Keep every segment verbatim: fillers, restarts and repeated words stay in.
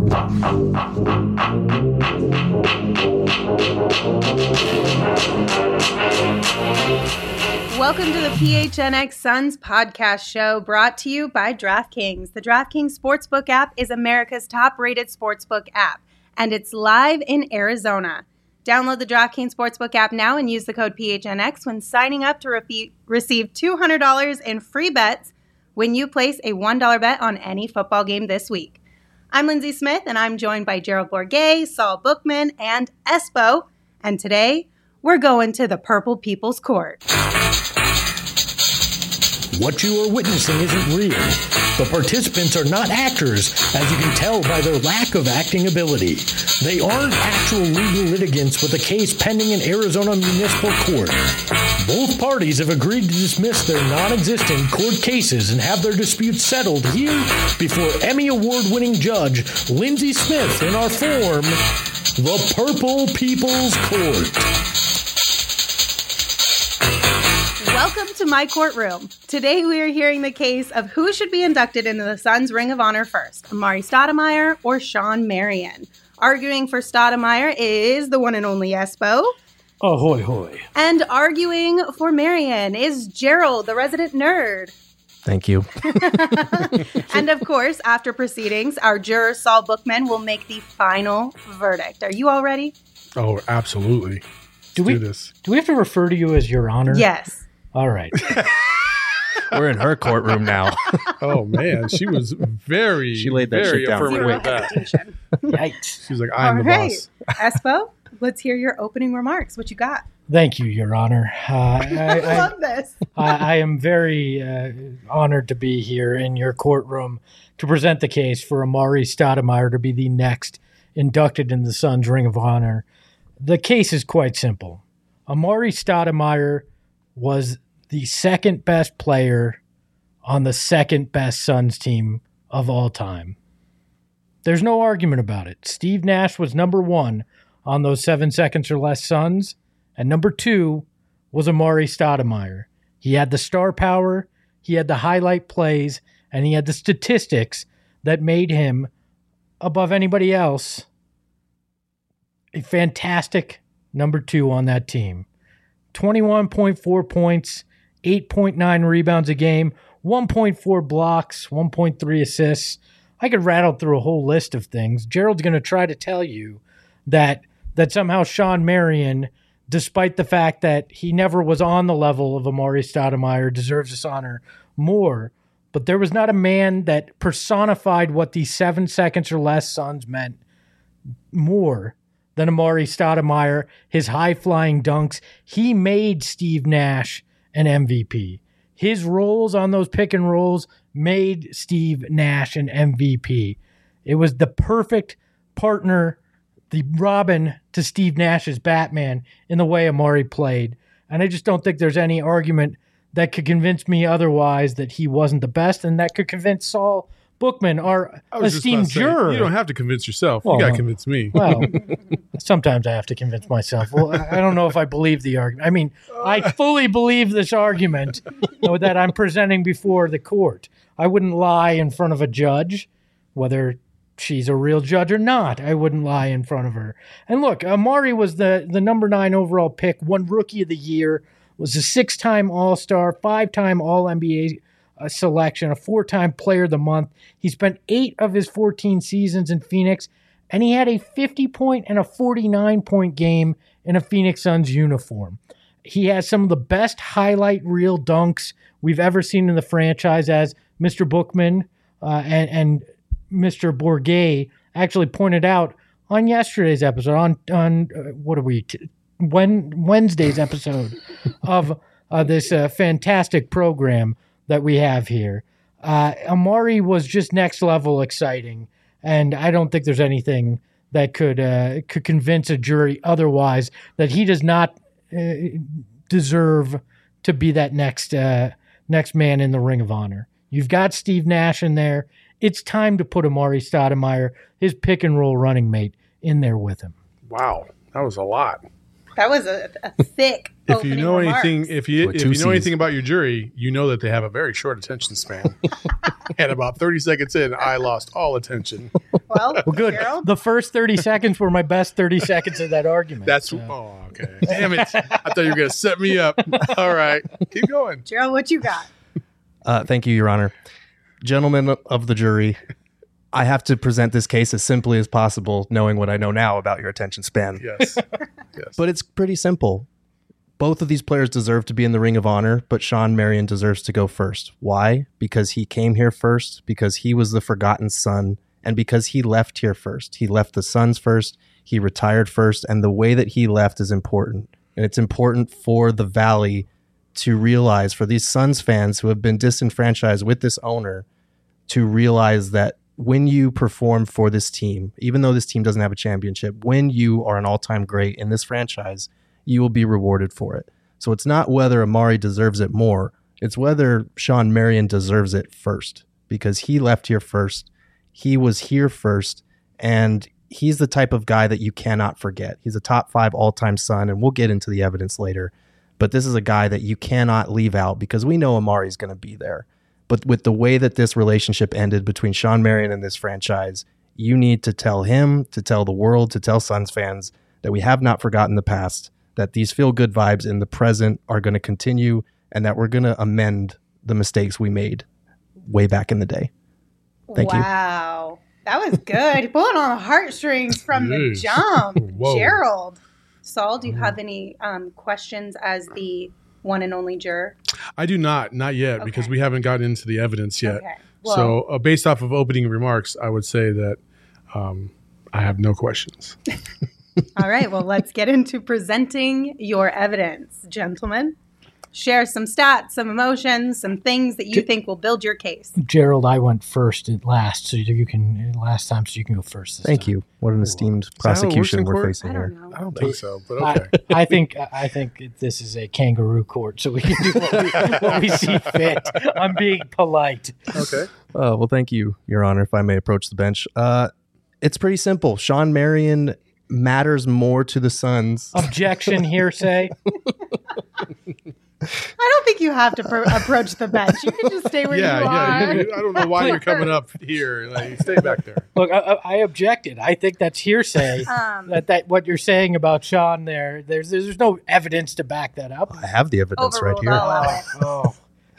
Welcome to the P H N X Suns podcast show, brought to you by DraftKings. The DraftKings Sportsbook app is America's top-rated sportsbook app, and it's live in Arizona. Download the DraftKings Sportsbook app now and use the code P H N X when signing up to re- receive two hundred dollars in free bets when you place a one dollar bet on any football game this week. I'm Lindsay Smith, and I'm joined by Gerald Bourguet, Saul Bookman, and Espo. And today, we're going to the Purple People's Court. What you are witnessing isn't real. The participants are not actors, as you can tell by their lack of acting ability. They aren't actual legal litigants with a case pending in Arizona Municipal Court. Both parties have agreed to dismiss their non-existent court cases and have their disputes settled here before Emmy Award-winning judge Lindsay Smith in our forum, the Purple People's Court. Welcome to my courtroom. Today we are hearing the case of who should be inducted into the Suns Ring of Honor first, Amar'e Stoudemire or Shawn Marion. Arguing for Stoudemire is the one and only Espo. Ahoy hoy. And arguing for Marion is Gerald, the resident nerd. Thank you. And of course, after proceedings, our juror Saul Bookman will make the final verdict. Are you all ready? Oh, absolutely. Let's do we do this? Do we have to refer to you as Your Honor? Yes. All right. We're in her courtroom now. Oh, man. She was very, she laid that very shit down. affirmative with that. Yikes. She was like, I'm all the right. boss. Espo, let's hear your opening remarks. What you got? Thank you, Your Honor. Uh, I, I love this. I, I am very uh, honored to be here in your courtroom to present the case for Amar'e Stoudemire to be the next inducted in the Suns Ring of Honor. The case is quite simple. Amar'e Stoudemire was the second best player on the second best Suns team of all time. There's no argument about it. Steve Nash was number one on those seven seconds or less Suns, and number two was Amar'e Stoudemire. He had the star power, he had the highlight plays, and he had the statistics that made him, above anybody else, a fantastic number two on that team. twenty-one point four points, eight point nine rebounds a game, one point four blocks, one point three assists. I could rattle through a whole list of things. Gerald's going to try to tell you that that somehow Shawn Marion, despite the fact that he never was on the level of Amar'e Stoudemire, deserves this honor more. But there was not a man that personified what these seven seconds or less Suns meant more than Amar'e Stoudemire, his high-flying dunks. He made Steve Nash an M V P. His roles on those pick and rolls made Steve Nash an M V P. It was the perfect partner, the Robin to Steve Nash's Batman, in the way Amar'e played. And I just don't think there's any argument that could convince me otherwise that he wasn't the best, and that could convince Saul Bookman, our esteemed juror. You don't have to convince yourself. Well, you got to convince me. Well, sometimes I have to convince myself. Well, I don't know if I believe the argument. I mean, I fully believe this argument that I'm presenting before the court. I wouldn't lie in front of a judge, whether she's a real judge or not. I wouldn't lie in front of her. And look, Amar'e was the, the number nine overall pick, won Rookie of the Year, was a six-time All-Star, five-time All-N B A a selection, a four-time Player of the Month. He spent eight of his fourteen seasons in Phoenix, and he had a fifty-point and a forty-nine-point game in a Phoenix Suns uniform. He has some of the best highlight reel dunks we've ever seen in the franchise, as Mister Bookman uh, and, and Mister Bourguet actually pointed out on yesterday's episode, on, on uh, what are we, t- when, Wednesday's episode of uh, this uh, fantastic program that we have here. Uh, Amar'e was just next level exciting, and I don't think there's anything that could uh, could convince a jury otherwise that he does not uh, deserve to be that next uh, next man in the Ring of Honor. You've got Steve Nash in there. It's time to put Amar'e Stoudemire, his pick and roll running mate, in there with him. Wow, that was a lot. That was a, a thick. If you know remarks. anything, if you With if two you know C's. anything about your jury, you know that they have a very short attention span. And about thirty seconds in, I lost all attention. Well, Well, good. Gerald? The first thirty seconds were my best thirty seconds of that argument. That's so. oh, okay. Damn it! I thought you were gonna set me up. All right, keep going. Gerald, what you got? Uh, thank you, Your Honor. Gentlemen of the jury, I have to present this case as simply as possible, knowing what I know now about your attention span. Yes, yes. But it's pretty simple. Both of these players deserve to be in the Ring of Honor, but Sean Marion deserves to go first. Why? Because he came here first, because he was the forgotten son, and because he left here first. He left the Suns first, he retired first, and the way that he left is important. And it's important for the Valley to realize, for these Suns fans who have been disenfranchised with this owner, to realize that when you perform for this team, even though this team doesn't have a championship, when you are an all-time great in this franchise, you will be rewarded for it. So it's not whether Amari deserves it more. It's whether Sean Marion deserves it first, because he left here first. He was here first, and he's the type of guy that you cannot forget. He's a top five all-time Sun, and we'll get into the evidence later. But this is a guy that you cannot leave out because we know Amari's going to be there. But with the way that this relationship ended between Sean Marion and this franchise, you need to tell him, to tell the world, to tell Suns fans that we have not forgotten the past, that these feel-good vibes in the present are going to continue, and that we're going to amend the mistakes we made way back in the day. Thank wow. you. Wow. That was good. Pulling on the heartstrings from the Jeez. jump. Whoa. Gerald. Saul, do you have any um, questions as the one and only juror? I do not, not yet, Okay. because we haven't gotten into the evidence yet. Okay. Well, so, uh, based off of opening remarks, I would say that um, I have no questions. all right. Well, let's get into presenting your evidence, gentlemen. Share some stats, some emotions, some things that you think will build your case. Gerald, I went first and last, so you can last time, so you can go first. This Thank time. you. What an esteemed Is that how it works prosecution in we're court? facing I here. don't know. I don't think so, but I, okay. I think I think this is a kangaroo court, so we can do what we, what we see fit. I'm being polite. Okay. Uh, well, thank you, Your Honor, if I may approach the bench. Uh, it's pretty simple. Sean Marion matters more to the Suns. Objection, hearsay. I don't think you have to pro- approach the bench. You can just stay where Yeah, you yeah. are. you- I don't know why you're coming up here. Like, stay back there. Look, I, I I objected. I think that's hearsay. Um, that that what you're saying about Sean there, there's there's no evidence to back that up. I have the evidence right Overruled. here. I'll allow it. Oh,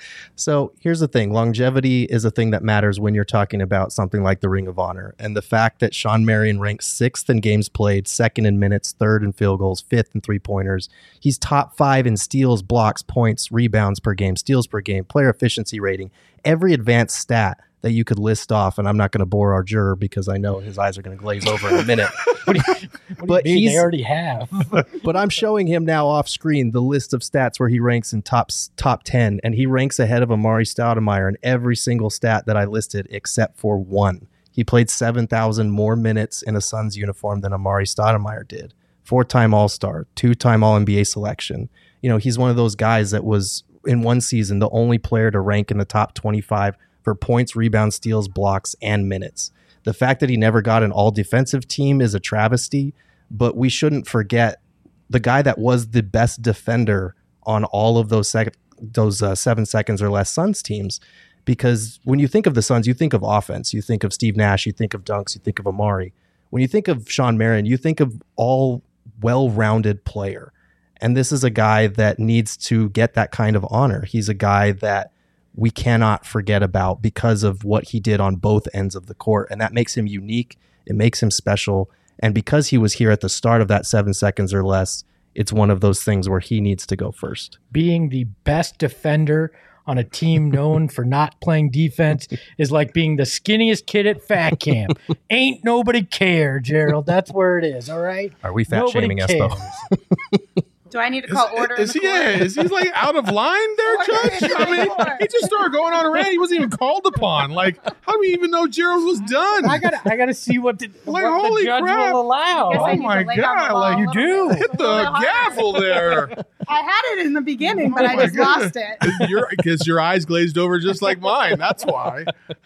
So here's the thing. Longevity is a thing that matters when you're talking about something like the Ring of Honor. And the fact that Sean Marion ranks sixth in games played, second in minutes, third in field goals, fifth in three-pointers. He's top five in steals, blocks, points, rebounds per game, steals per game, player efficiency rating. Every advanced stat that you could list off, and I'm not going to bore our juror because I know his eyes are going to glaze over in a minute. what do you, what But do you mean? he's- They already have. But I'm showing him now off screen the list of stats where he ranks in top top ten, and he ranks ahead of Amari Stoudemire in every single stat that I listed except for one. He played seven thousand more minutes in a Suns uniform than Amari Stoudemire did. Four-time All-Star, two-time All N B A selection. You know, he's one of those guys that was, in one season, the only player to rank in the top twenty-five for points, rebounds, steals, blocks, and minutes. The fact that he never got an all-defensive team is a travesty, but we shouldn't forget the guy that was the best defender on all of those sec- those uh, seven seconds or less Suns teams. Because when you think of the Suns, you think of offense. You think of Steve Nash. You think of dunks. You think of Amari. When you think of Sean Marion, you think of all well-rounded player. And this is a guy that needs to get that kind of honor. He's a guy that we cannot forget about because of what he did on both ends of the court. And that makes him unique. It makes him special. And because he was here at the start of that seven seconds or less, it's one of those things where he needs to go first. Being the best defender on a team known for not playing defense is like being the skinniest kid at fat camp. Ain't nobody care, Gerald. That's where it is, all right? Are we fat Nobody shaming us, cares. though? Do I need to call order? Is in he, the court? yeah, is he like out of line there, Order Judge? in I the mean, court. he just started going on a rant. He wasn't even called upon. Like, how do we even know Gerald was done? I gotta, I gotta see what the, Like, what holy the judge crap. will allow. Guess I Oh need to my lay down God, the law like, a you little do. bit. Hit A little the bit harder. gavel there. I had it in the beginning, but Oh I my just goodness. lost it. Your, because your eyes glazed over just like mine. That's why.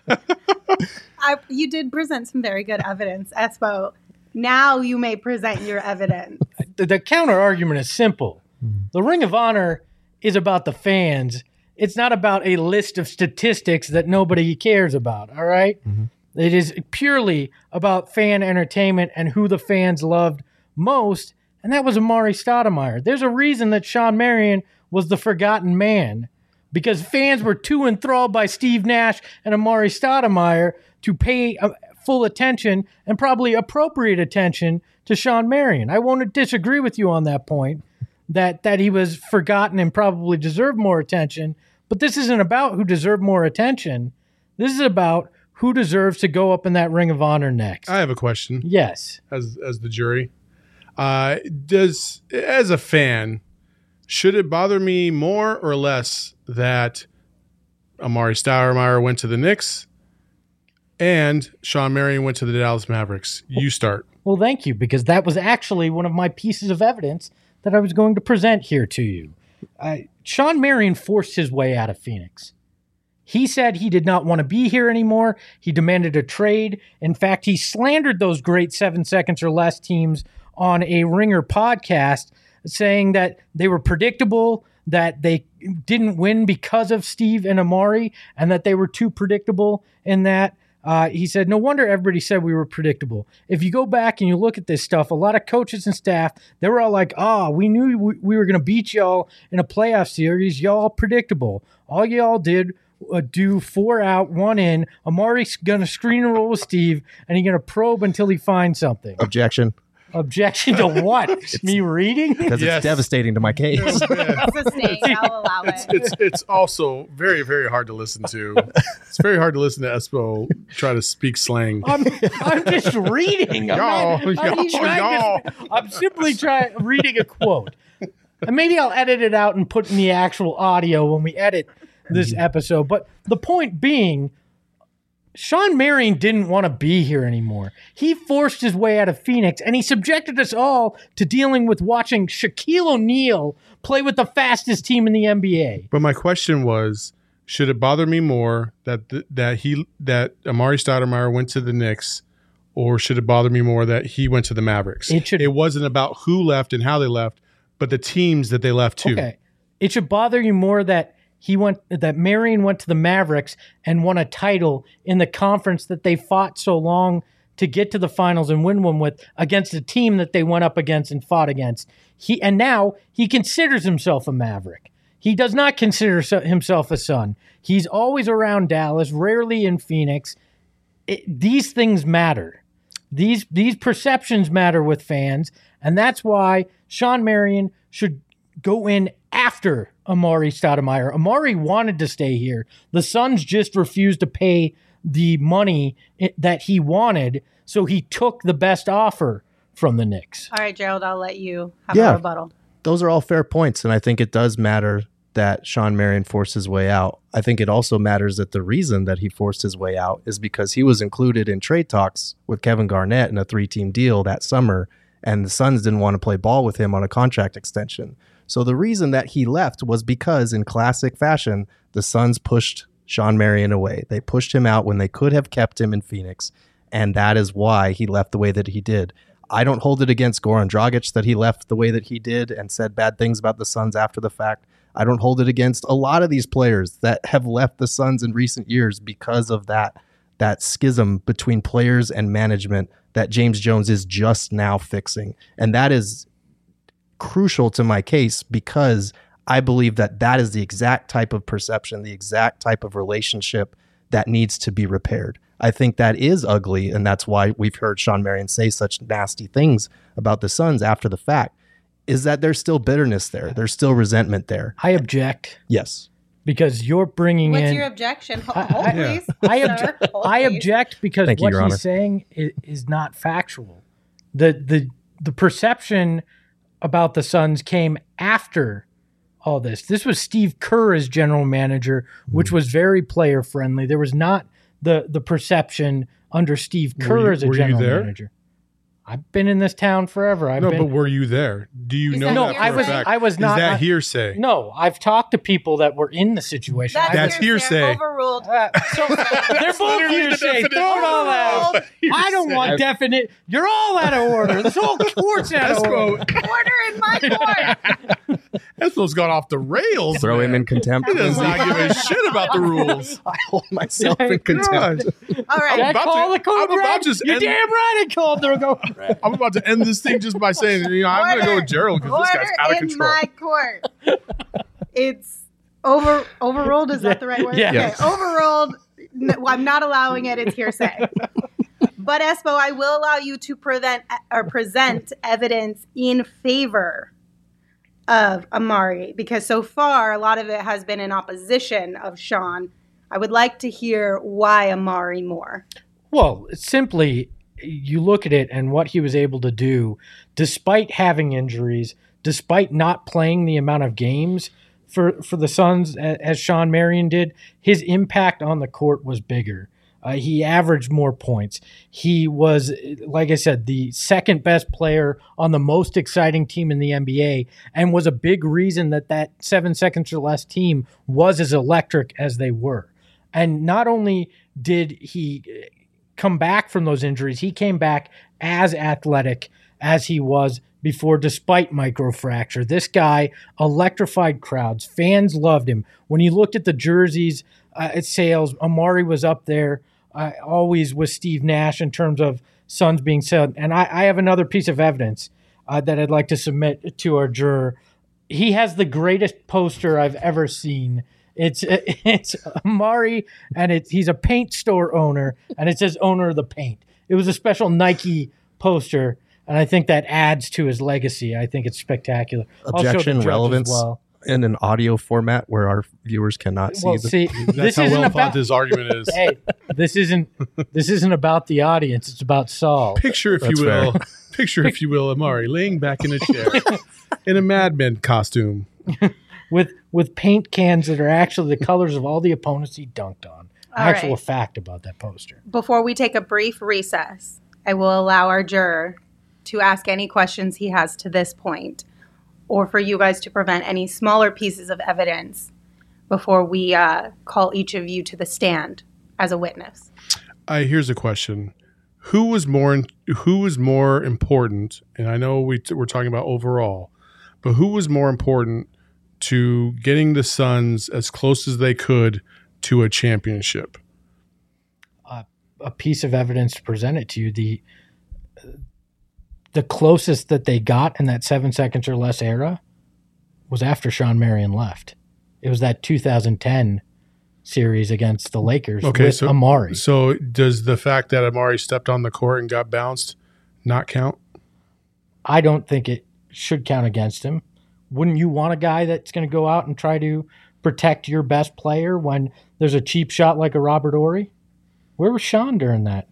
I, you did present some very good evidence, Espo. Now you may present your evidence. The, the counter argument is simple. The Ring of Honor is about the fans. It's not about a list of statistics that nobody cares about, all right? It is purely about fan entertainment and who the fans loved most, and that was Amari Stoudemire. There's a reason that Shawn Marion was the forgotten man, because fans were too enthralled by Steve Nash and Amari Stoudemire to pay uh, full attention and probably appropriate attention to Shawn Marion. I won't disagree with you on that point, that, that he was forgotten and probably deserved more attention, but this isn't about who deserved more attention. This is about who deserves to go up in that Ring of Honor next. I have a question. Yes. As as the jury, uh, does as a fan, should it bother me more or less that Amari Stoudemire went to the Knicks and Shawn Marion went to the Dallas Mavericks? You start. Well, thank you, because that was actually one of my pieces of evidence that I was going to present here to you. Uh, Shawn Marion forced his way out of Phoenix. He said he did not want to be here anymore. He demanded a trade. In fact, he slandered those great seven seconds or less teams on a Ringer podcast, saying that they were predictable, that they didn't win because of Steve and Amari, and that they were too predictable in that. Uh, he said, no wonder everybody said we were predictable. If you go back and you look at this stuff, a lot of coaches and staff, they were all like, oh, we knew we, we were going to beat y'all in a playoff series. Y'all predictable. All y'all did uh, do four out, one in. Amari's going to screen and roll with Steve, and he's going to probe until he finds something. Objection. Objection to what? Me reading? Because Yes. it's devastating to my case. Oh, man. It's a snake. I'll allow It's, it. it's it's also very, very hard to listen to. It's very hard to listen to Espo try to speak slang. I'm, I'm just reading. I'm, Y'all, not, I'm, y'all, trying y'all. to- I'm simply trying reading a quote. And maybe I'll edit it out and put in the actual audio when we edit this episode. But the point being, Shawn Marion didn't want to be here anymore. He forced his way out of Phoenix, and he subjected us all to dealing with watching Shaquille O'Neal play with the fastest team in the N B A. But my question was, should it bother me more that th- that he that Amari Stoudemire went to the Knicks, or should it bother me more that he went to the Mavericks? It should- It wasn't about who left and how they left, but the teams that they left to. Okay. It should bother you more that he went that Marion went to the Mavericks and won a title in the conference that they fought so long to get to the finals and win one with, against a team that they went up against and fought against. He and now he considers himself a Maverick. He does not consider so- himself a Sun. He's always around Dallas, rarely in Phoenix. It, these things matter. These these perceptions matter with fans, and that's why Shawn Marion should go in after Amari Stoudemire. Amari wanted to stay here. The Suns just refused to pay the money it, that he wanted, so he took the best offer from the Knicks. All right, Gerald, I'll let you have Yeah. a rebuttal. Those are all fair points, and I think it does matter that Shawn Marion forced his way out. I think it also matters that the reason that he forced his way out is because he was included in trade talks with Kevin Garnett in a three-team deal that summer, and the Suns didn't want to play ball with him on a contract extension. So the reason that he left was because, in classic fashion, the Suns pushed Shawn Marion away. They pushed him out when they could have kept him in Phoenix, and that is why he left the way that he did. I don't hold it against Goran Dragic that he left the way that he did and said bad things about the Suns after the fact. I don't hold it against a lot of these players that have left the Suns in recent years because of that that schism between players and management that James Jones is just now fixing. And that is crucial to my case because I believe that that is the exact type of perception, the exact type of relationship that needs to be repaired. I think that is ugly, and that's why we've heard Shawn Marion say such nasty things about the Suns after the fact, is that there's still bitterness there. There's still resentment there. I object Yes. because you're bringing What's in... your objection? Hold, I- hold I- please. I, sir. obje- Hold, I please. object because Thank you, what Your he's Honor. saying is, is not factual. The the the perception about the Suns came after all this. This was Steve Kerr as general manager, which Hmm. was very player friendly. There was not the the perception under Steve Were Kerr you- as a were you general there? manager. I've been in this town forever. I've No, been, but were you there? Do you Is know that no, that for I a was fact? I was not. Is that I- hearsay? No, I've talked to people that were in the situation. That's, I That's hearsay. Overruled. Uh, so they're both literally the hearsay. definition. Throw it all out. I don't want definite. You're all out of order. This whole court's out of order. Espo, Order in my court. Espo's gone off the rails. Throw man. him in contempt. He does not give a shit about the rules. I hold myself in contempt. God. All right. I'm about call to- the code I'm about red. to You're end- damn right I called the code red. I'm about to end this thing just by saying, you know, I'm going to go with Gerald because this guy's Order out of in control. my court. It's over overruled. Is that the right word? Yeah. Okay. Yes. Overruled. No, I'm not allowing it. It's hearsay. But Espo, I will allow you to present or present evidence in favor of Amari because so far a lot of it has been in opposition of Sean. I would like to hear why Amari more. Well, simply, you look at it and what he was able to do, despite having injuries, despite not playing the amount of games for, for the Suns a- as Sean Marion did, his impact on the court was bigger. Uh, he averaged more points. He was, like I said, the second best player on the most exciting team in the N B A and was a big reason that that seven seconds or less team was as electric as they were. And not only did he come back from those injuries, he came back as athletic as he was before, despite microfracture. This guy electrified crowds. Fans loved him. When you looked at the jerseys uh, at sales, Amari was up there uh, always with Steve Nash in terms of Suns being sold. And I, I have another piece of evidence uh, that I'd like to submit to our juror. He has the greatest poster I've ever seen. It's it's Amari, and it's he's a paint store owner, and it says owner of the paint. It was a special Nike poster, and I think that adds to his legacy. I think it's spectacular. I'll show the Objection, judge as relevance well. in an audio format where our viewers cannot see Well, the see, That's this how isn't well about thought this argument is. hey, this isn't this isn't about the audience. It's about Saul. Picture, if That's you will, fair. picture, if you will, Amari laying back in a chair in a Mad Men costume. with with paint cans that are actually the colors of all the opponents he dunked on. All Actual right. fact about that poster. Before we take a brief recess, I will allow our juror to ask any questions he has to this point, or for you guys to prevent any smaller pieces of evidence before we uh, call each of you to the stand as a witness. Uh, here's a question: Who was more? Who was more important? And I know we t- we're talking about overall, but who was more important to getting the Suns as close as they could to a championship? A piece of evidence to present it to you. The the closest that they got in that seven seconds or less era was after Sean Marion left. It was that two thousand ten series against the Lakers Okay, with so Amari. So does the fact that Amari stepped on the court and got bounced not count? I don't think it should count against him. Wouldn't you want a guy that's going to go out and try to protect your best player when there's a cheap shot like a Robert Horry? Where was Sean during that?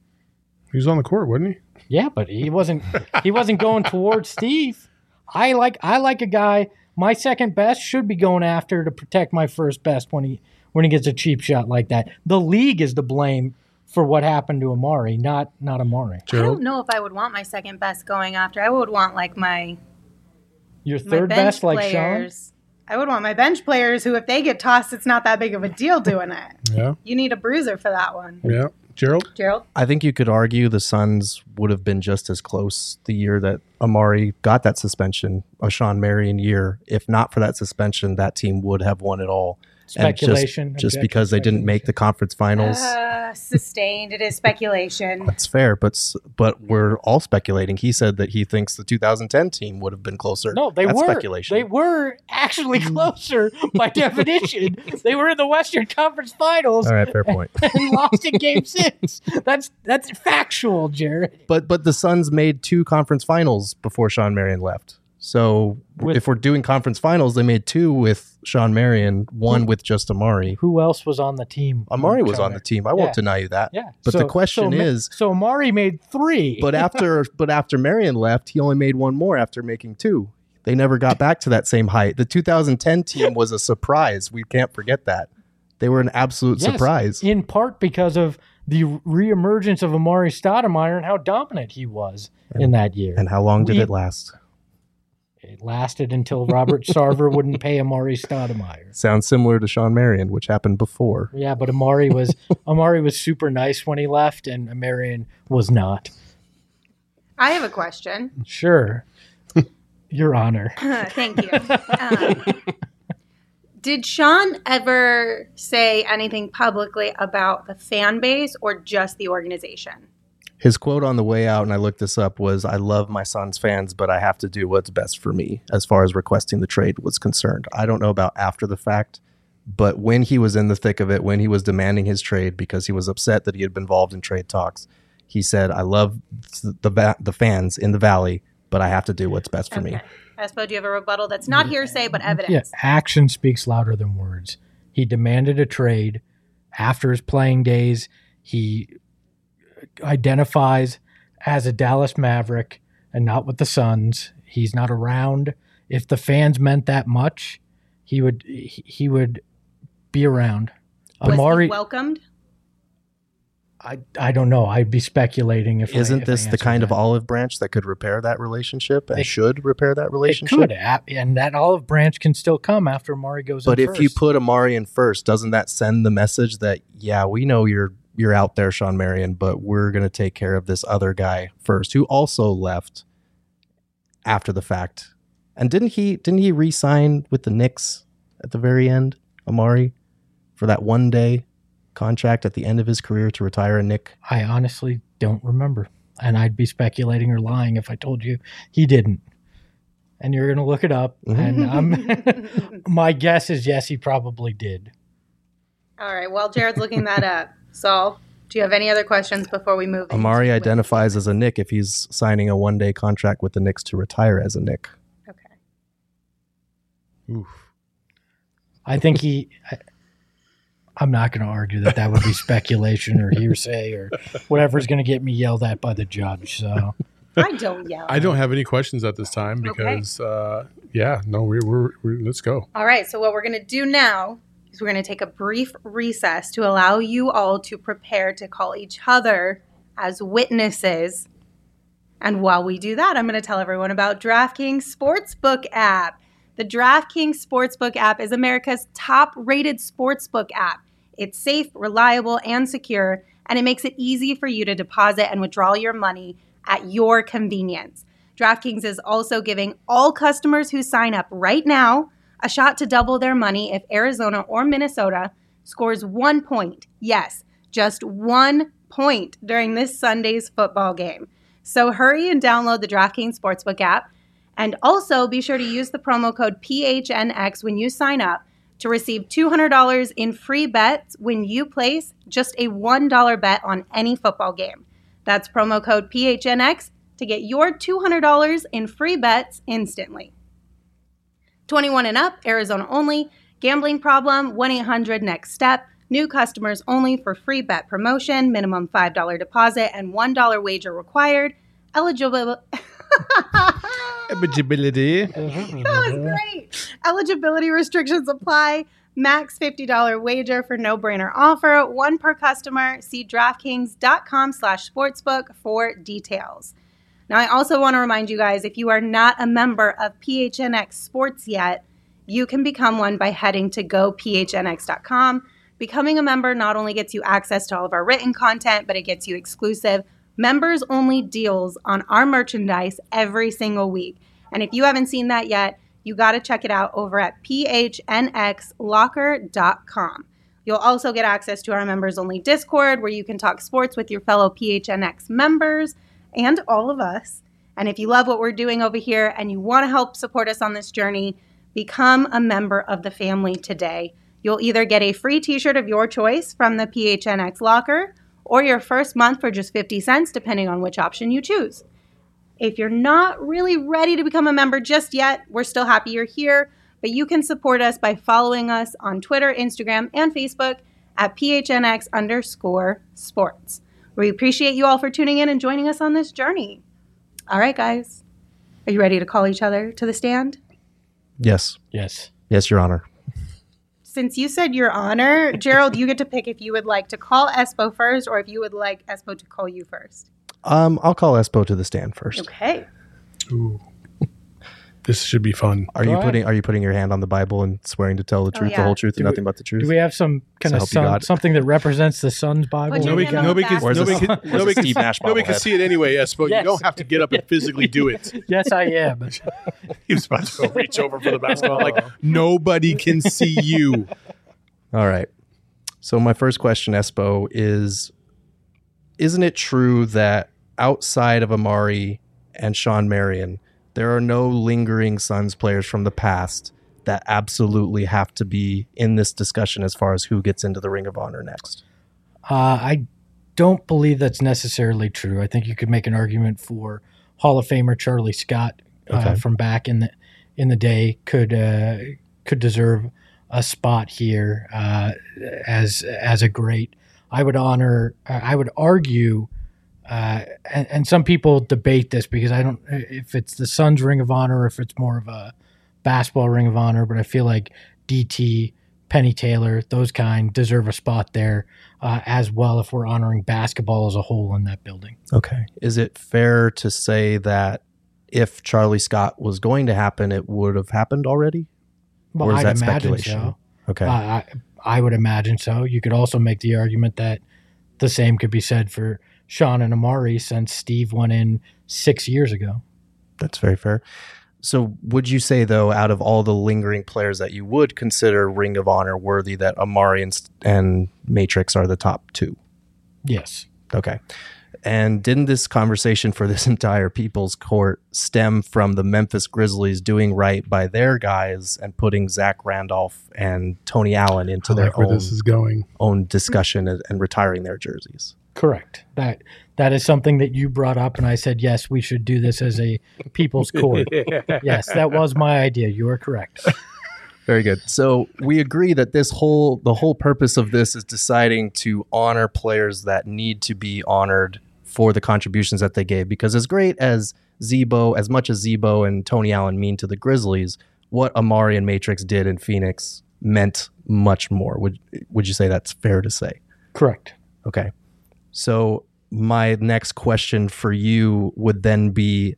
He was on the court, wasn't he? Yeah, but he wasn't he wasn't going towards Steve. I like I like a guy, my second best should be going after to protect my first best when he when he gets a cheap shot like that. The league is to blame for what happened to Amari, not not Amari. I Gerald? don't know if I would want my second best going after. I would want like my, Your my third bench best like Sean? players. I would want my bench players who, if they get tossed, it's not that big of a deal doing it. Yeah. You need a bruiser for that one. Yeah. Gerald? Gerald? I think you could argue the Suns would have been just as close the year that Amari got that suspension, a Sean Marion year. If not for that suspension, that team would have won it all. And just- Speculation. Just, objection, because they didn't make the conference finals. Uh, sustained. It is speculation. That's fair, but s- but we're all speculating. He said that he thinks the two thousand ten team would have been closer. No, they That's were. speculation. They were actually closer by definition. They were in the Western Conference Finals All right, fair point. and lost in Game Six. That's that's factual, Jared. But but the Suns made two conference finals before Sean Marion left. So With- if we're doing conference finals, they made two with Sean Marion, one with just Amari. Who else was on the team? Amari was on the team. I won't Yeah. deny you that. Yeah, But so- the question so Ma- is, so Amari made three. but after but after Marion left, he only made one more after making two. They never got back to that same height. The two thousand ten team was a surprise. We can't forget that. They were an absolute Yes, surprise. in part because of the reemergence of Amari Stoudemire and how dominant he was in that year. And how long did We- it last? It lasted until Robert Sarver wouldn't pay Amari Stoudemire. Sounds similar to Sean Marion, which happened before. Yeah, but Amari was Amari was super nice when he left, and Marion was not. I have a question. Sure. Your Honor. Thank you. Um, did Sean ever say anything publicly about the fan base or just the organization? His quote on the way out, and I looked this up, was, "I love my son's fans, but I have to do what's best for me," as far as requesting the trade was concerned. I don't know about after the fact, but when he was in the thick of it, when he was demanding his trade because he was upset that he had been involved in trade talks, he said, "I love the va- the fans in the Valley, but I have to do what's best for Okay. me." Espo, do you have a rebuttal that's not hearsay but Yeah, evidence? action speaks louder than words. He demanded a trade after his playing days. He identifies as a Dallas Maverick and not with the Suns. He's not around. If the fans meant that much, he would he he would be around. Was Amari, he welcomed? I I don't know. I'd be speculating if I- Isn't if I this the answered kind of that. olive branch that could repair that relationship and It- should repair that It relationship? could, a- and that olive branch can still come after Amari goes But in if you first. put Amari in first, doesn't that send the message that, yeah, we know you're you're out there, Sean Marion, but we're going to take care of this other guy first, who also left after the fact? And didn't he didn't he re-sign with the Knicks at the very end, Amari, for that one day contract at the end of his career to retire a Knick? I honestly don't remember, and I'd be speculating or lying if I told you he didn't. And you're going to look it up, and I'm, my guess is yes, he probably did. All right. Well, Jared's looking that up. Saul, do you have any other questions before we move? Amari into- identifies as a Knick if he's signing a one-day contract with the Knicks to retire as a Knick. Okay. Oof. I think he. I, I'm not going to argue that that would be speculation or hearsay or whatever's going to get me yelled at by the judge. So I don't yell. I don't have any questions at this time because, uh, yeah, no, we, we're, we're, let's go. All right. So what we're going to do now is we're going to take a brief recess to allow you all to prepare to call each other as witnesses. And while we do that, I'm going to tell everyone about DraftKings Sportsbook app. The DraftKings Sportsbook app is America's top-rated sportsbook app. It's safe, reliable, and secure, and it makes it easy for you to deposit and withdraw your money at your convenience. DraftKings is also giving all customers who sign up right now a shot to double their money if Arizona or Minnesota scores one point. Yes, just one point during this Sunday's football game. So hurry and download the DraftKings Sportsbook app. And also be sure to use the promo code P H N X when you sign up to receive two hundred dollars in free bets when you place just a one dollar bet on any football game. That's promo code P H N X to get your two hundred dollars in free bets instantly. twenty-one and up, Arizona only. Gambling problem, one eight hundred next step. New customers only for free bet promotion. Minimum five dollars deposit and one dollar wager required. Eligible. Eligibility. That was great. Eligibility restrictions apply. Max fifty dollars wager for no-brainer offer. One per customer. See DraftKings.com slash sportsbook for details. Now, I also want to remind you guys, if you are not a member of P H N X Sports yet, you can become one by heading to go P H N X dot com. Becoming a member not only gets you access to all of our written content, but it gets you exclusive members-only deals on our merchandise every single week. And if you haven't seen that yet, you got to check it out over at P H N X locker dot com. You'll also get access to our members-only Discord where you can talk sports with your fellow P H N X members and all of us. And if you love what we're doing over here and you want to help support us on this journey, become a member of the family today. You'll either get a free t-shirt of your choice from the P H N X Locker or your first month for just fifty cents, depending on which option you choose. If you're not really ready to become a member just yet, we're still happy you're here, but you can support us by following us on Twitter, Instagram, and Facebook at P H N X underscore sports. We appreciate you all for tuning in and joining us on this journey. All right, guys. Are you ready to call each other to the stand? Yes. Yes. Yes, Your Honor. Since you said your honor, Gerald, you get to pick if you would like to call Espo first or if you would like Espo to call you first. Um, I'll call Espo to the stand first. Okay. Ooh. This should be fun. Are Go you ahead. putting Are you putting your hand on the Bible and swearing to tell the Oh, truth, yeah. the whole truth, Do and we- nothing but the truth? Do we have some kind So of help you sun, God. something that represents the sun's Bible? Put your Nobody hand can, on nobody the can, back. Where's nobody this- can, where's nobody the can, Steve Nash nobody bobblehead? can see it anyway, Espo. Yes. You don't have to get up and physically do it. Yes, I am. He was about to go reach over for the basketball. Like, nobody can see you. All right. So my first question, Espo, is: isn't it true that outside of Amari and Sean Marion, there are no lingering Suns players from the past that absolutely have to be in this discussion as far as who gets into the Ring of Honor next? Uh, I don't believe that's necessarily true. I think you could make an argument for Hall of Famer Charlie Scott uh, Okay. from back in the in the day could uh, could deserve a spot here uh, as as a great. I would honor. I would argue, uh, and, and some people debate this because I don't if it's the Suns Ring of Honor or if it's more of a basketball Ring of Honor. But I feel like D T, Penny Taylor, those kind deserve a spot there uh, as well if we're honoring basketball as a whole in that building. Okay. Is it fair to say that if Charlie Scott was going to happen, it would have happened already? Well, Or is I'd that imagine speculation? so. Okay. Uh, I, I would imagine so. You could also make the argument that the same could be said for Sean and Amari since Steve went in six years ago. That's very fair. So would you say, though, out of all the lingering players that you would consider Ring of Honor worthy, that Amari and, and Matrix are the top two? Yes. Okay. And didn't this conversation for this entire People's Court stem from the Memphis Grizzlies doing right by their guys and putting Zach Randolph and Tony Allen into I their like where own, this is going. own discussion and, and retiring their jerseys? Correct. That that is something that you brought up, and I said yes, we should do this as a People's Court. Yes, that was my idea. You are correct. Very good. So we agree that this whole the whole purpose of this is deciding to honor players that need to be honored for the contributions that they gave. Because as great as Zebo, as much as Zebo and Tony Allen mean to the Grizzlies, what Amari and Matrix did in Phoenix meant much more. Would would you say that's fair to say? Correct. Okay. So my next question for you would then be,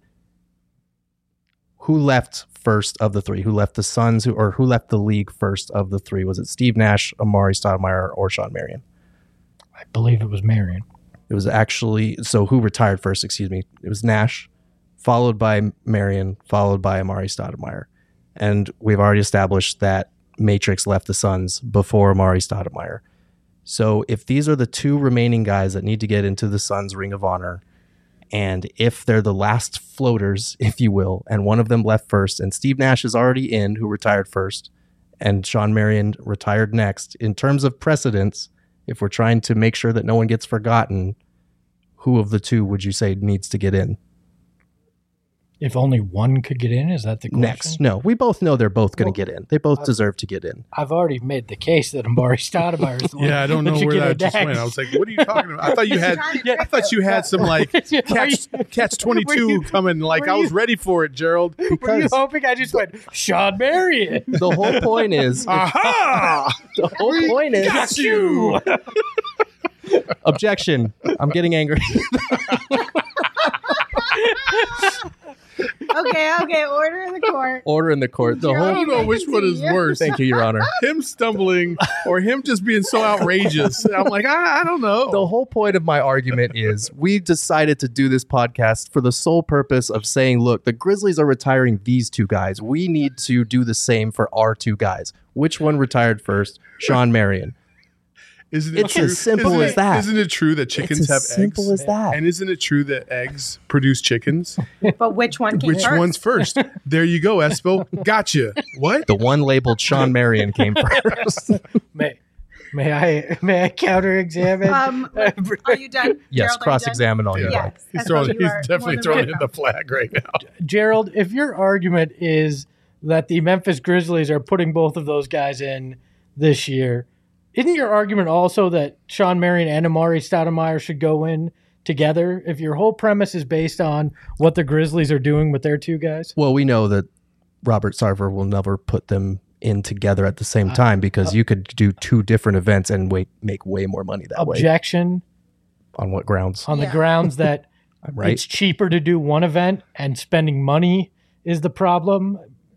who left first of the three? Who left the Suns, who, or who left the league first of the three? Was it Steve Nash, Amari Stoudemire, or Sean Marion? I believe it was Marion. It was actually, so who retired first, excuse me. It was Nash, followed by Marion, followed by Amari Stoudemire. And we've already established that Matrix left the Suns before Amari Stoudemire. So if these are the two remaining guys that need to get into the Suns Ring of Honor, and if they're the last floaters, if you will, and one of them left first, and Steve Nash is already in, who retired first, and Sean Marion retired next, in terms of precedence, if we're trying to make sure that no one gets forgotten, who of the two would you say needs to get in? If only one could get in, is that the question? Next. No, we both know they're both going to Well, get in. They both I- deserve to get in. I've already made the case that Amari Stoudemire is the one Yeah, I don't know should where get that in just next. went. I was like, what are you talking about? I thought you had, Trying to I trick thought you had some like Are catch, you- catch twenty-two were you- coming. Like were I was you- ready for it, Gerald. Were you Because hoping I just went, Sean Marion? the whole point is, Aha! the whole point is, Got you. objection. I'm getting angry. Okay, okay, order in the court. Order in the court. The I whole. don't know which one is worse. Thank you, Your Honor. Him stumbling or him just being so outrageous. I'm like, I, I don't know. The whole point of my argument is we decided to do this podcast for the sole purpose of saying, look, the Grizzlies are retiring these two guys. We need to do the same for our two guys. Which one retired first? Sean Marion. Isn't it It's true? as simple isn't as it- that. Isn't it true that chickens It's have as simple eggs? as that. And isn't it true that eggs produce chickens? But which one came Which first? one's first? There you go, Espo. Gotcha. What? The one labeled Sean Marion came first. May, may I may I counter examine? Um, are you done? Yes, Gerald, are you cross-examine all done? you Yeah. like. Yes. He's I throwing. thought you He's are definitely more than throwing in welcome. the flag right now. Gerald, if your argument is that the Memphis Grizzlies are putting both of those guys in this year, isn't your argument also that Sean Marion and Amari Stoudemire should go in together? If your whole premise is based on what the Grizzlies are doing with their two guys? Well, we know that Robert Sarver will never put them in together at the same time because you could do two different events and wait, make way more money that way. Objection On what grounds? on the Yeah. grounds that I'm right. it's cheaper to do one event and spending money is the problem.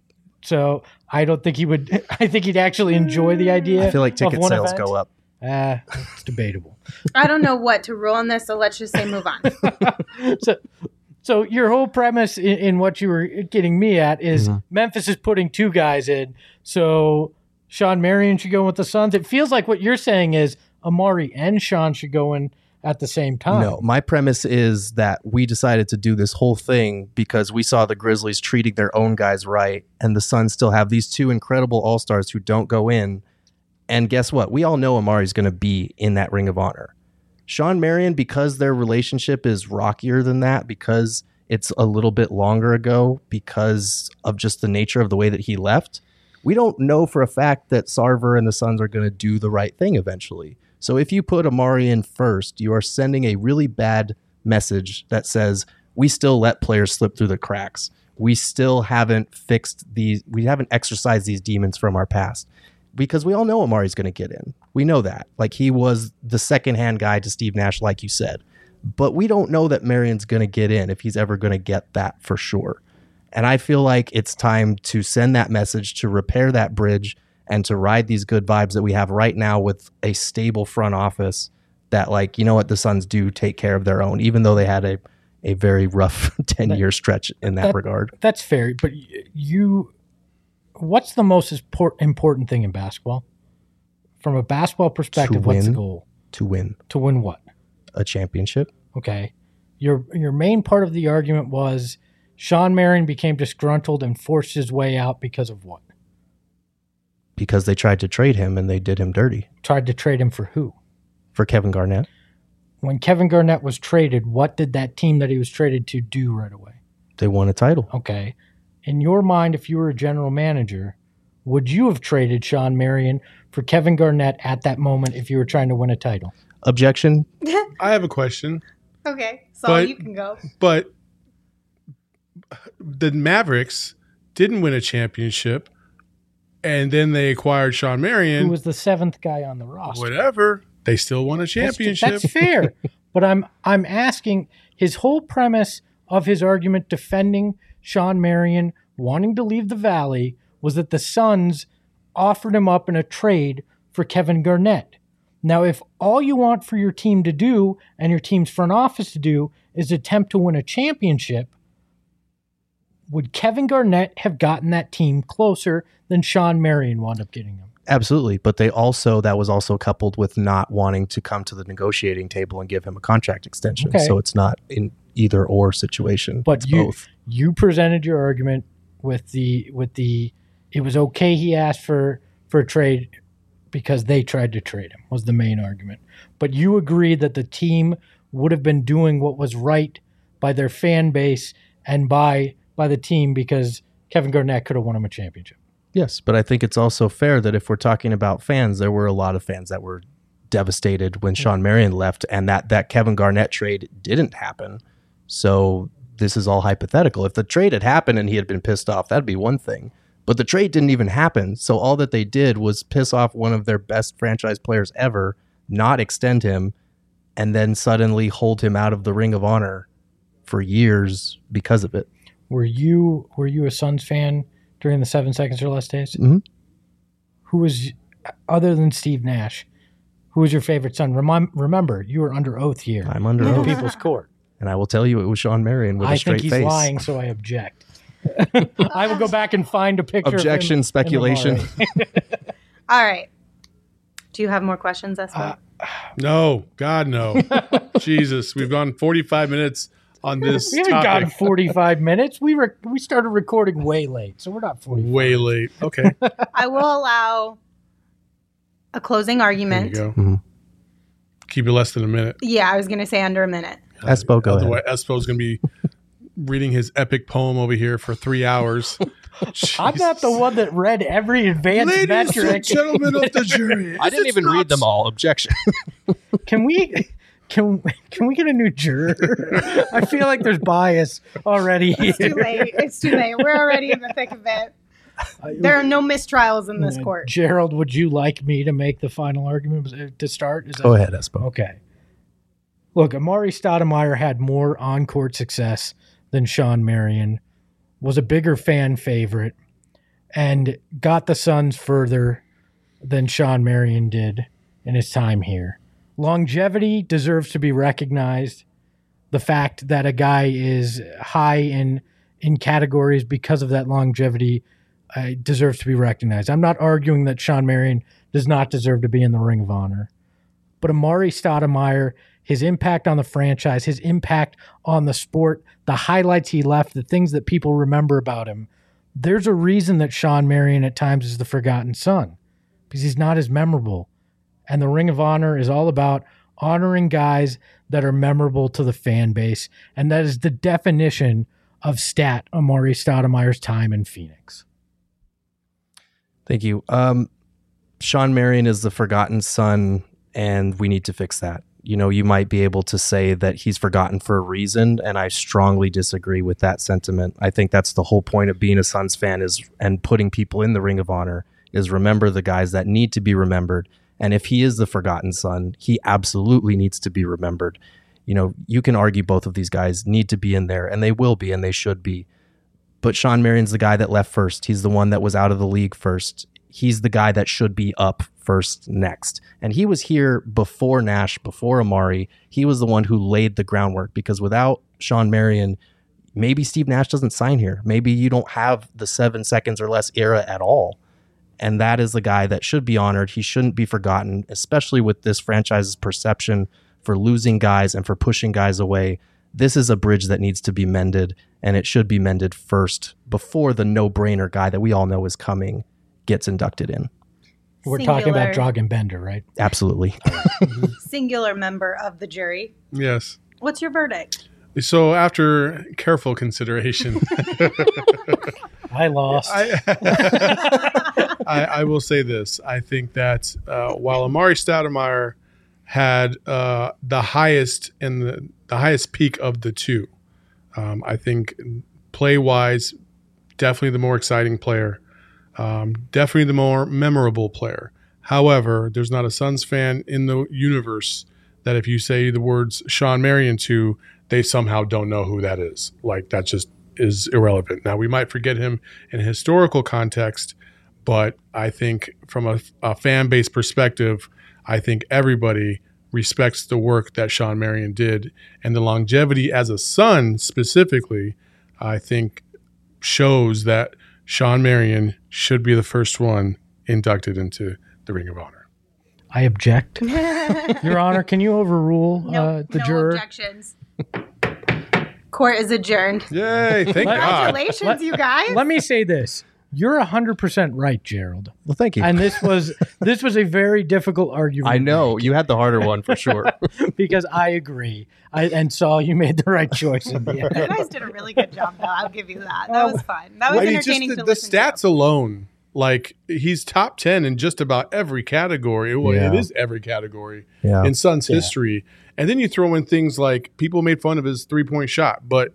So I don't think he would. I think he'd actually enjoy the idea. I feel like of ticket one sales event. go up. Uh, it's debatable. I don't know what to rule on this, so let's just say move on. so, so your whole premise in, in what you were getting me at is Mm-hmm. Memphis is putting two guys in. So Sean Marion should go with the Suns. It feels like what you're saying is Amari and Sean should go in at the same time. No, my premise is that we decided to do this whole thing because we saw the Grizzlies treating their own guys right, and the Suns still have these two incredible all-stars who don't go in. And guess what? We all know Amari's going to be in that Ring of Honor. Sean Marion, because their relationship is rockier than that, because it's a little bit longer ago, because of just the nature of the way that he left, we don't know for a fact that Sarver and the Suns are going to do the right thing eventually. So if you put Amari in first, you are sending a really bad message that says we still let players slip through the cracks. We still haven't fixed these, we haven't exorcised these demons from our past. Because we all know Amari's going to get in. We know that. Like, he was the second-hand guy to Steve Nash, like you said. But we don't know that Marion's going to get in, if he's ever going to get that for sure. And I feel like it's time to send that message, to repair that bridge, and to ride these good vibes that we have right now with a stable front office that, like, you know what, the Suns do take care of their own, even though they had a, a very rough ten-year stretch in that, That- regard. That's fair. But y- you, what's the most import- important thing in basketball? From a basketball perspective, what's the win. goal? To win To win what? a championship. Okay. Your your main part of the argument was Sean Marion became disgruntled and forced his way out because of what? Because they tried to trade him and they did him dirty. Tried to trade him for who? For Kevin Garnett. When Kevin Garnett was traded, what did that team that he was traded to do right away? They won a title. Okay. In your mind, if you were a general manager, would you have traded Sean Marion for Kevin Garnett at that moment if you were trying to win a title? Objection. I have a question, Okay, so But- you can go. but the Mavericks didn't win a championship, and then they acquired Sean Who Marion. was the seventh guy on the roster? Whatever, they still won a That's- championship. That's, fair. But I'm I'm asking, his whole premise of his argument defending Sean Marion wanting to leave the Valley was that the Suns offered him up in a trade for Kevin Garnett. Now, if all you want for your team to do and your team's front office to do is attempt to win a championship, would Kevin Garnett have gotten that team closer than Sean Marion wound up getting them? Absolutely. But they also, that was also coupled with not wanting to come to the negotiating table and give him a contract extension. Okay. So it's not in either or situation. But it's you both. you presented your argument with the with the it was okay he asked for for a trade because they tried to trade him was the main argument. But you agreed that the team would have been doing what was right by their fan base and by by the team because Kevin Garnett could have won him a championship. Yes. But I think it's also fair that if we're talking about fans, there were a lot of fans that were devastated when Sean Marion left and that, that Kevin Garnett trade didn't happen. So this is all hypothetical. If the trade had happened and he had been pissed off, that'd be one thing. But the trade didn't even happen. So all that they did was piss off one of their best franchise players ever, not extend him, and then suddenly hold him out of the Ring of Honor for years because of it. Were you were you a Suns fan during the seven seconds or less days? Mhm. Who was, other than Steve Nash, who was your favorite Sun? Remem- remember, you were under oath here I'm under in oath. People's Court. And I will tell you it was Sean Marion with I a straight think he's face. lying, so I object. I will go back and find a picture. Objection, of him in the speculation. Murray. All right. Do you have more questions, Espo? Uh, No, God, no. Jesus, we've gone forty-five minutes on this We haven't topic. gotten forty-five minutes. We were we started recording way late, so we're not forty-five. Way late. Okay, I will allow a closing there you argument. go. Mhm. Keep it less than a minute. Yeah, I was going to say under a minute. Espo, go ahead. Otherwise, Espo's going to be reading his epic poem over here for three hours. I'm not the one that read every advanced Ladies metric. and gentlemen of the jury, I didn't it's even not read them all. Objection. Can we can can we get a new juror? I feel like there's bias already It's too here. late. It's too late. We're already in the thick of it. There are no mistrials in this Uh, court. Gerald, would you like me to make the final argument to start? Is Go that- ahead, Espo. Okay. Look, Amari Stoudemire had more on-court success than Sean Marion. was a bigger fan favorite, and got the Suns further than Shawn Marion did in his time here. Longevity deserves to be recognized. The fact that a guy is high in in categories because of that longevity uh, deserves to be recognized. I'm not arguing that Shawn Marion does not deserve to be in the Ring of Honor. But Amar'e Stoudemire, his impact on the franchise, his impact on the sport, the highlights he left, the things that people remember about him, there's a reason that Shawn Marion at times is the forgotten son, because he's not as memorable. And the Ring of Honor is all about honoring guys that are memorable to the fan base, and that is the definition of stat Amar'e Stoudemire's time in Phoenix. Thank you. Um, Shawn Marion is the forgotten son, and we need to fix that. You know, you might be able to say that he's forgotten for a reason, and I strongly disagree with that sentiment. I think that's the whole point of being a Suns fan is and putting people in the Ring of Honor is remember the guys that need to be remembered. And if he is the forgotten son, he absolutely needs to be remembered. You know, you can argue both of these guys need to be in there, and they will be, and they should be. But Shawn Marion's the guy that left first. He's the one that was out of the league first. He's the guy that should be up first next. And he was here before Nash, before Amar'e. He was the one who laid the groundwork, because without Shawn Marion, maybe Steve Nash doesn't sign here. Maybe you don't have the seven seconds or less era at all. And that is the guy that should be honored. He shouldn't be forgotten, especially with this franchise's perception for losing guys and for pushing guys away. This is a bridge that needs to be mended, and it should be mended first before the no-brainer guy that we all know is coming gets inducted in. We're Singular. talking about Dragan Bender, right? Absolutely. Singular member of the jury. Yes. What's your verdict? So after careful consideration, I lost. I, I, I will say this. I think that uh, while Amar'e Stoudemire had uh, the highest and the, the highest peak of the two, um, I think play-wise, definitely the more exciting player, um, definitely the more memorable player. However, there's not a Suns fan in the universe that if you say the words Shawn Marion to, they somehow don't know who that is. Like, that just is irrelevant. Now, we might forget him in a historical context, but I think from a, a fan base perspective, I think everybody respects the work that Shawn Marion did. And the longevity as a son specifically, I think shows that Shawn Marion should be the first one inducted into the Ring of Honor. I object. Your Honor, can you overrule No, uh, the no juror? objections. Court is adjourned. Yay, thank God. Congratulations, Let- you guys. Let me say this. You're one hundred percent right, Gerald. Well, thank you. And this was this was a very difficult argument. I know. You had the harder one for sure. because I agree. I, and Saul, you made the right choice in the You end. guys did a really good job, though. I'll give you that. That was fun. That was I mean, just entertaining the, to the listen stats to. alone, like he's top ten in just about every category. Well, Yeah. it is every category Yeah. in Suns Yeah. history. And then you throw in things like people made fun of his three-point shot, but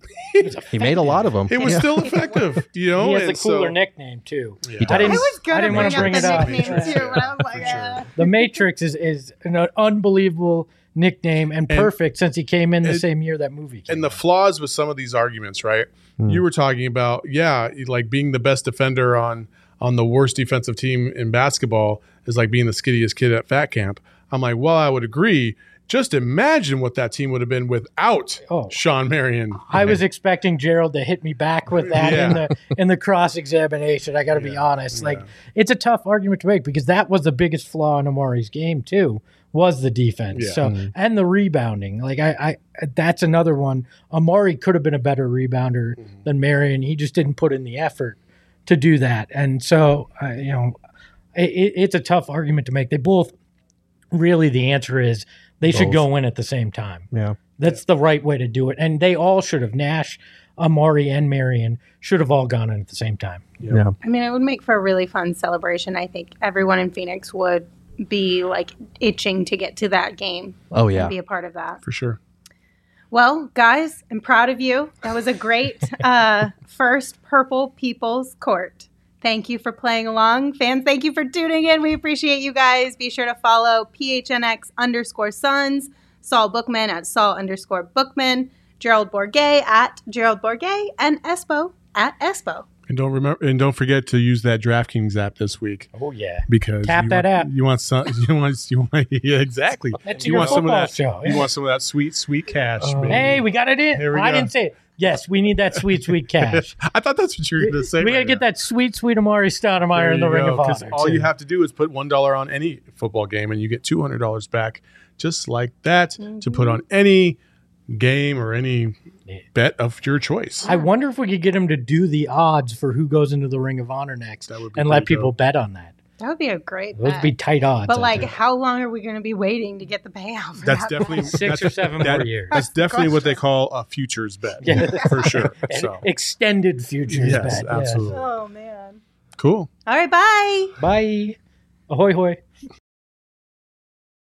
He made a lot of them. it was Yeah. still effective. You know, He has and a cooler so, nickname, too. Yeah. He I didn't, I was I going didn't to want bring to up bring the it up. nickname, too, but I was like, uh, The Matrix is, is an unbelievable nickname and And- perfect since he came in the and- same year that movie came And the out. flaws with some of these arguments, right? Hmm. You were talking about, yeah, like being the best defender on on the worst defensive team in basketball is like being the skittiest kid at fat camp. I'm like, well, I would agree. Just imagine what that team would have been without Oh. Shawn Marion. I was expecting Gerald to hit me back with that in Yeah. the in the cross examination. I got to be Yeah. honest; like Yeah. it's a tough argument to make because that was the biggest flaw in Amar'e's game too, was the defense. Yeah. So and the rebounding. Like I, I, that's another one. Amar'e could have been a better rebounder than Marion. He just didn't put in the effort to do that. And so uh, you know, it, it's a tough argument to make. They both really the answer is they should Both. go in at the same time. Yeah. That's the right way to do it. And they all should have. Nash, Amar'e, and Marion should have all gone in at the same time. Yeah. I mean, it would make for a really fun celebration. I think everyone in Phoenix would be like itching to get to that game Oh, and yeah. be a part of that. For sure. Well, guys, I'm proud of you. That was a great uh, first Purple People's Court. Thank you for playing along. Fans, thank you for tuning in. We appreciate you guys. Be sure to follow P H N X underscore Suns, Saul Bookman at Saul underscore Bookman, Gerald Bourget at Gerald Bourget, and Espo at Espo. And don't remember, and don't forget to use that DraftKings app this week. Oh yeah, because tap you that want, app. You want some? You want? You want? Yeah, exactly. That's you your want some of football that? show, You yeah. want some of that sweet, sweet cash? Uh, baby. hey, we got it in. Here we I go. didn't say it. Yes, we need that sweet, sweet cash. I thought that's what you were going to say. We got to right get now. that sweet, sweet Amari Stoudemire There in the you Ring go, of 'cause Honor. all too. you have to do is put one dollar on any football game, and you get two hundred dollars back, just like that, Mm-hmm. to put on any game or any bet of your choice. I wonder if we could get him to do the odds for who goes into the Ring of Honor next, That would be and let pretty people dope. bet on that. That would be a great Those would bet. be tight odds. But I like, think. how long are we going to be waiting to get the payout? For That's that definitely bet? Six that's- or seven that- more years. That's the definitely what they question. call a futures bet, Yeah. for sure. An So extended futures yes, bet. yeah. absolutely. Oh man! Cool. All right, bye. Bye. Ahoy, hoy.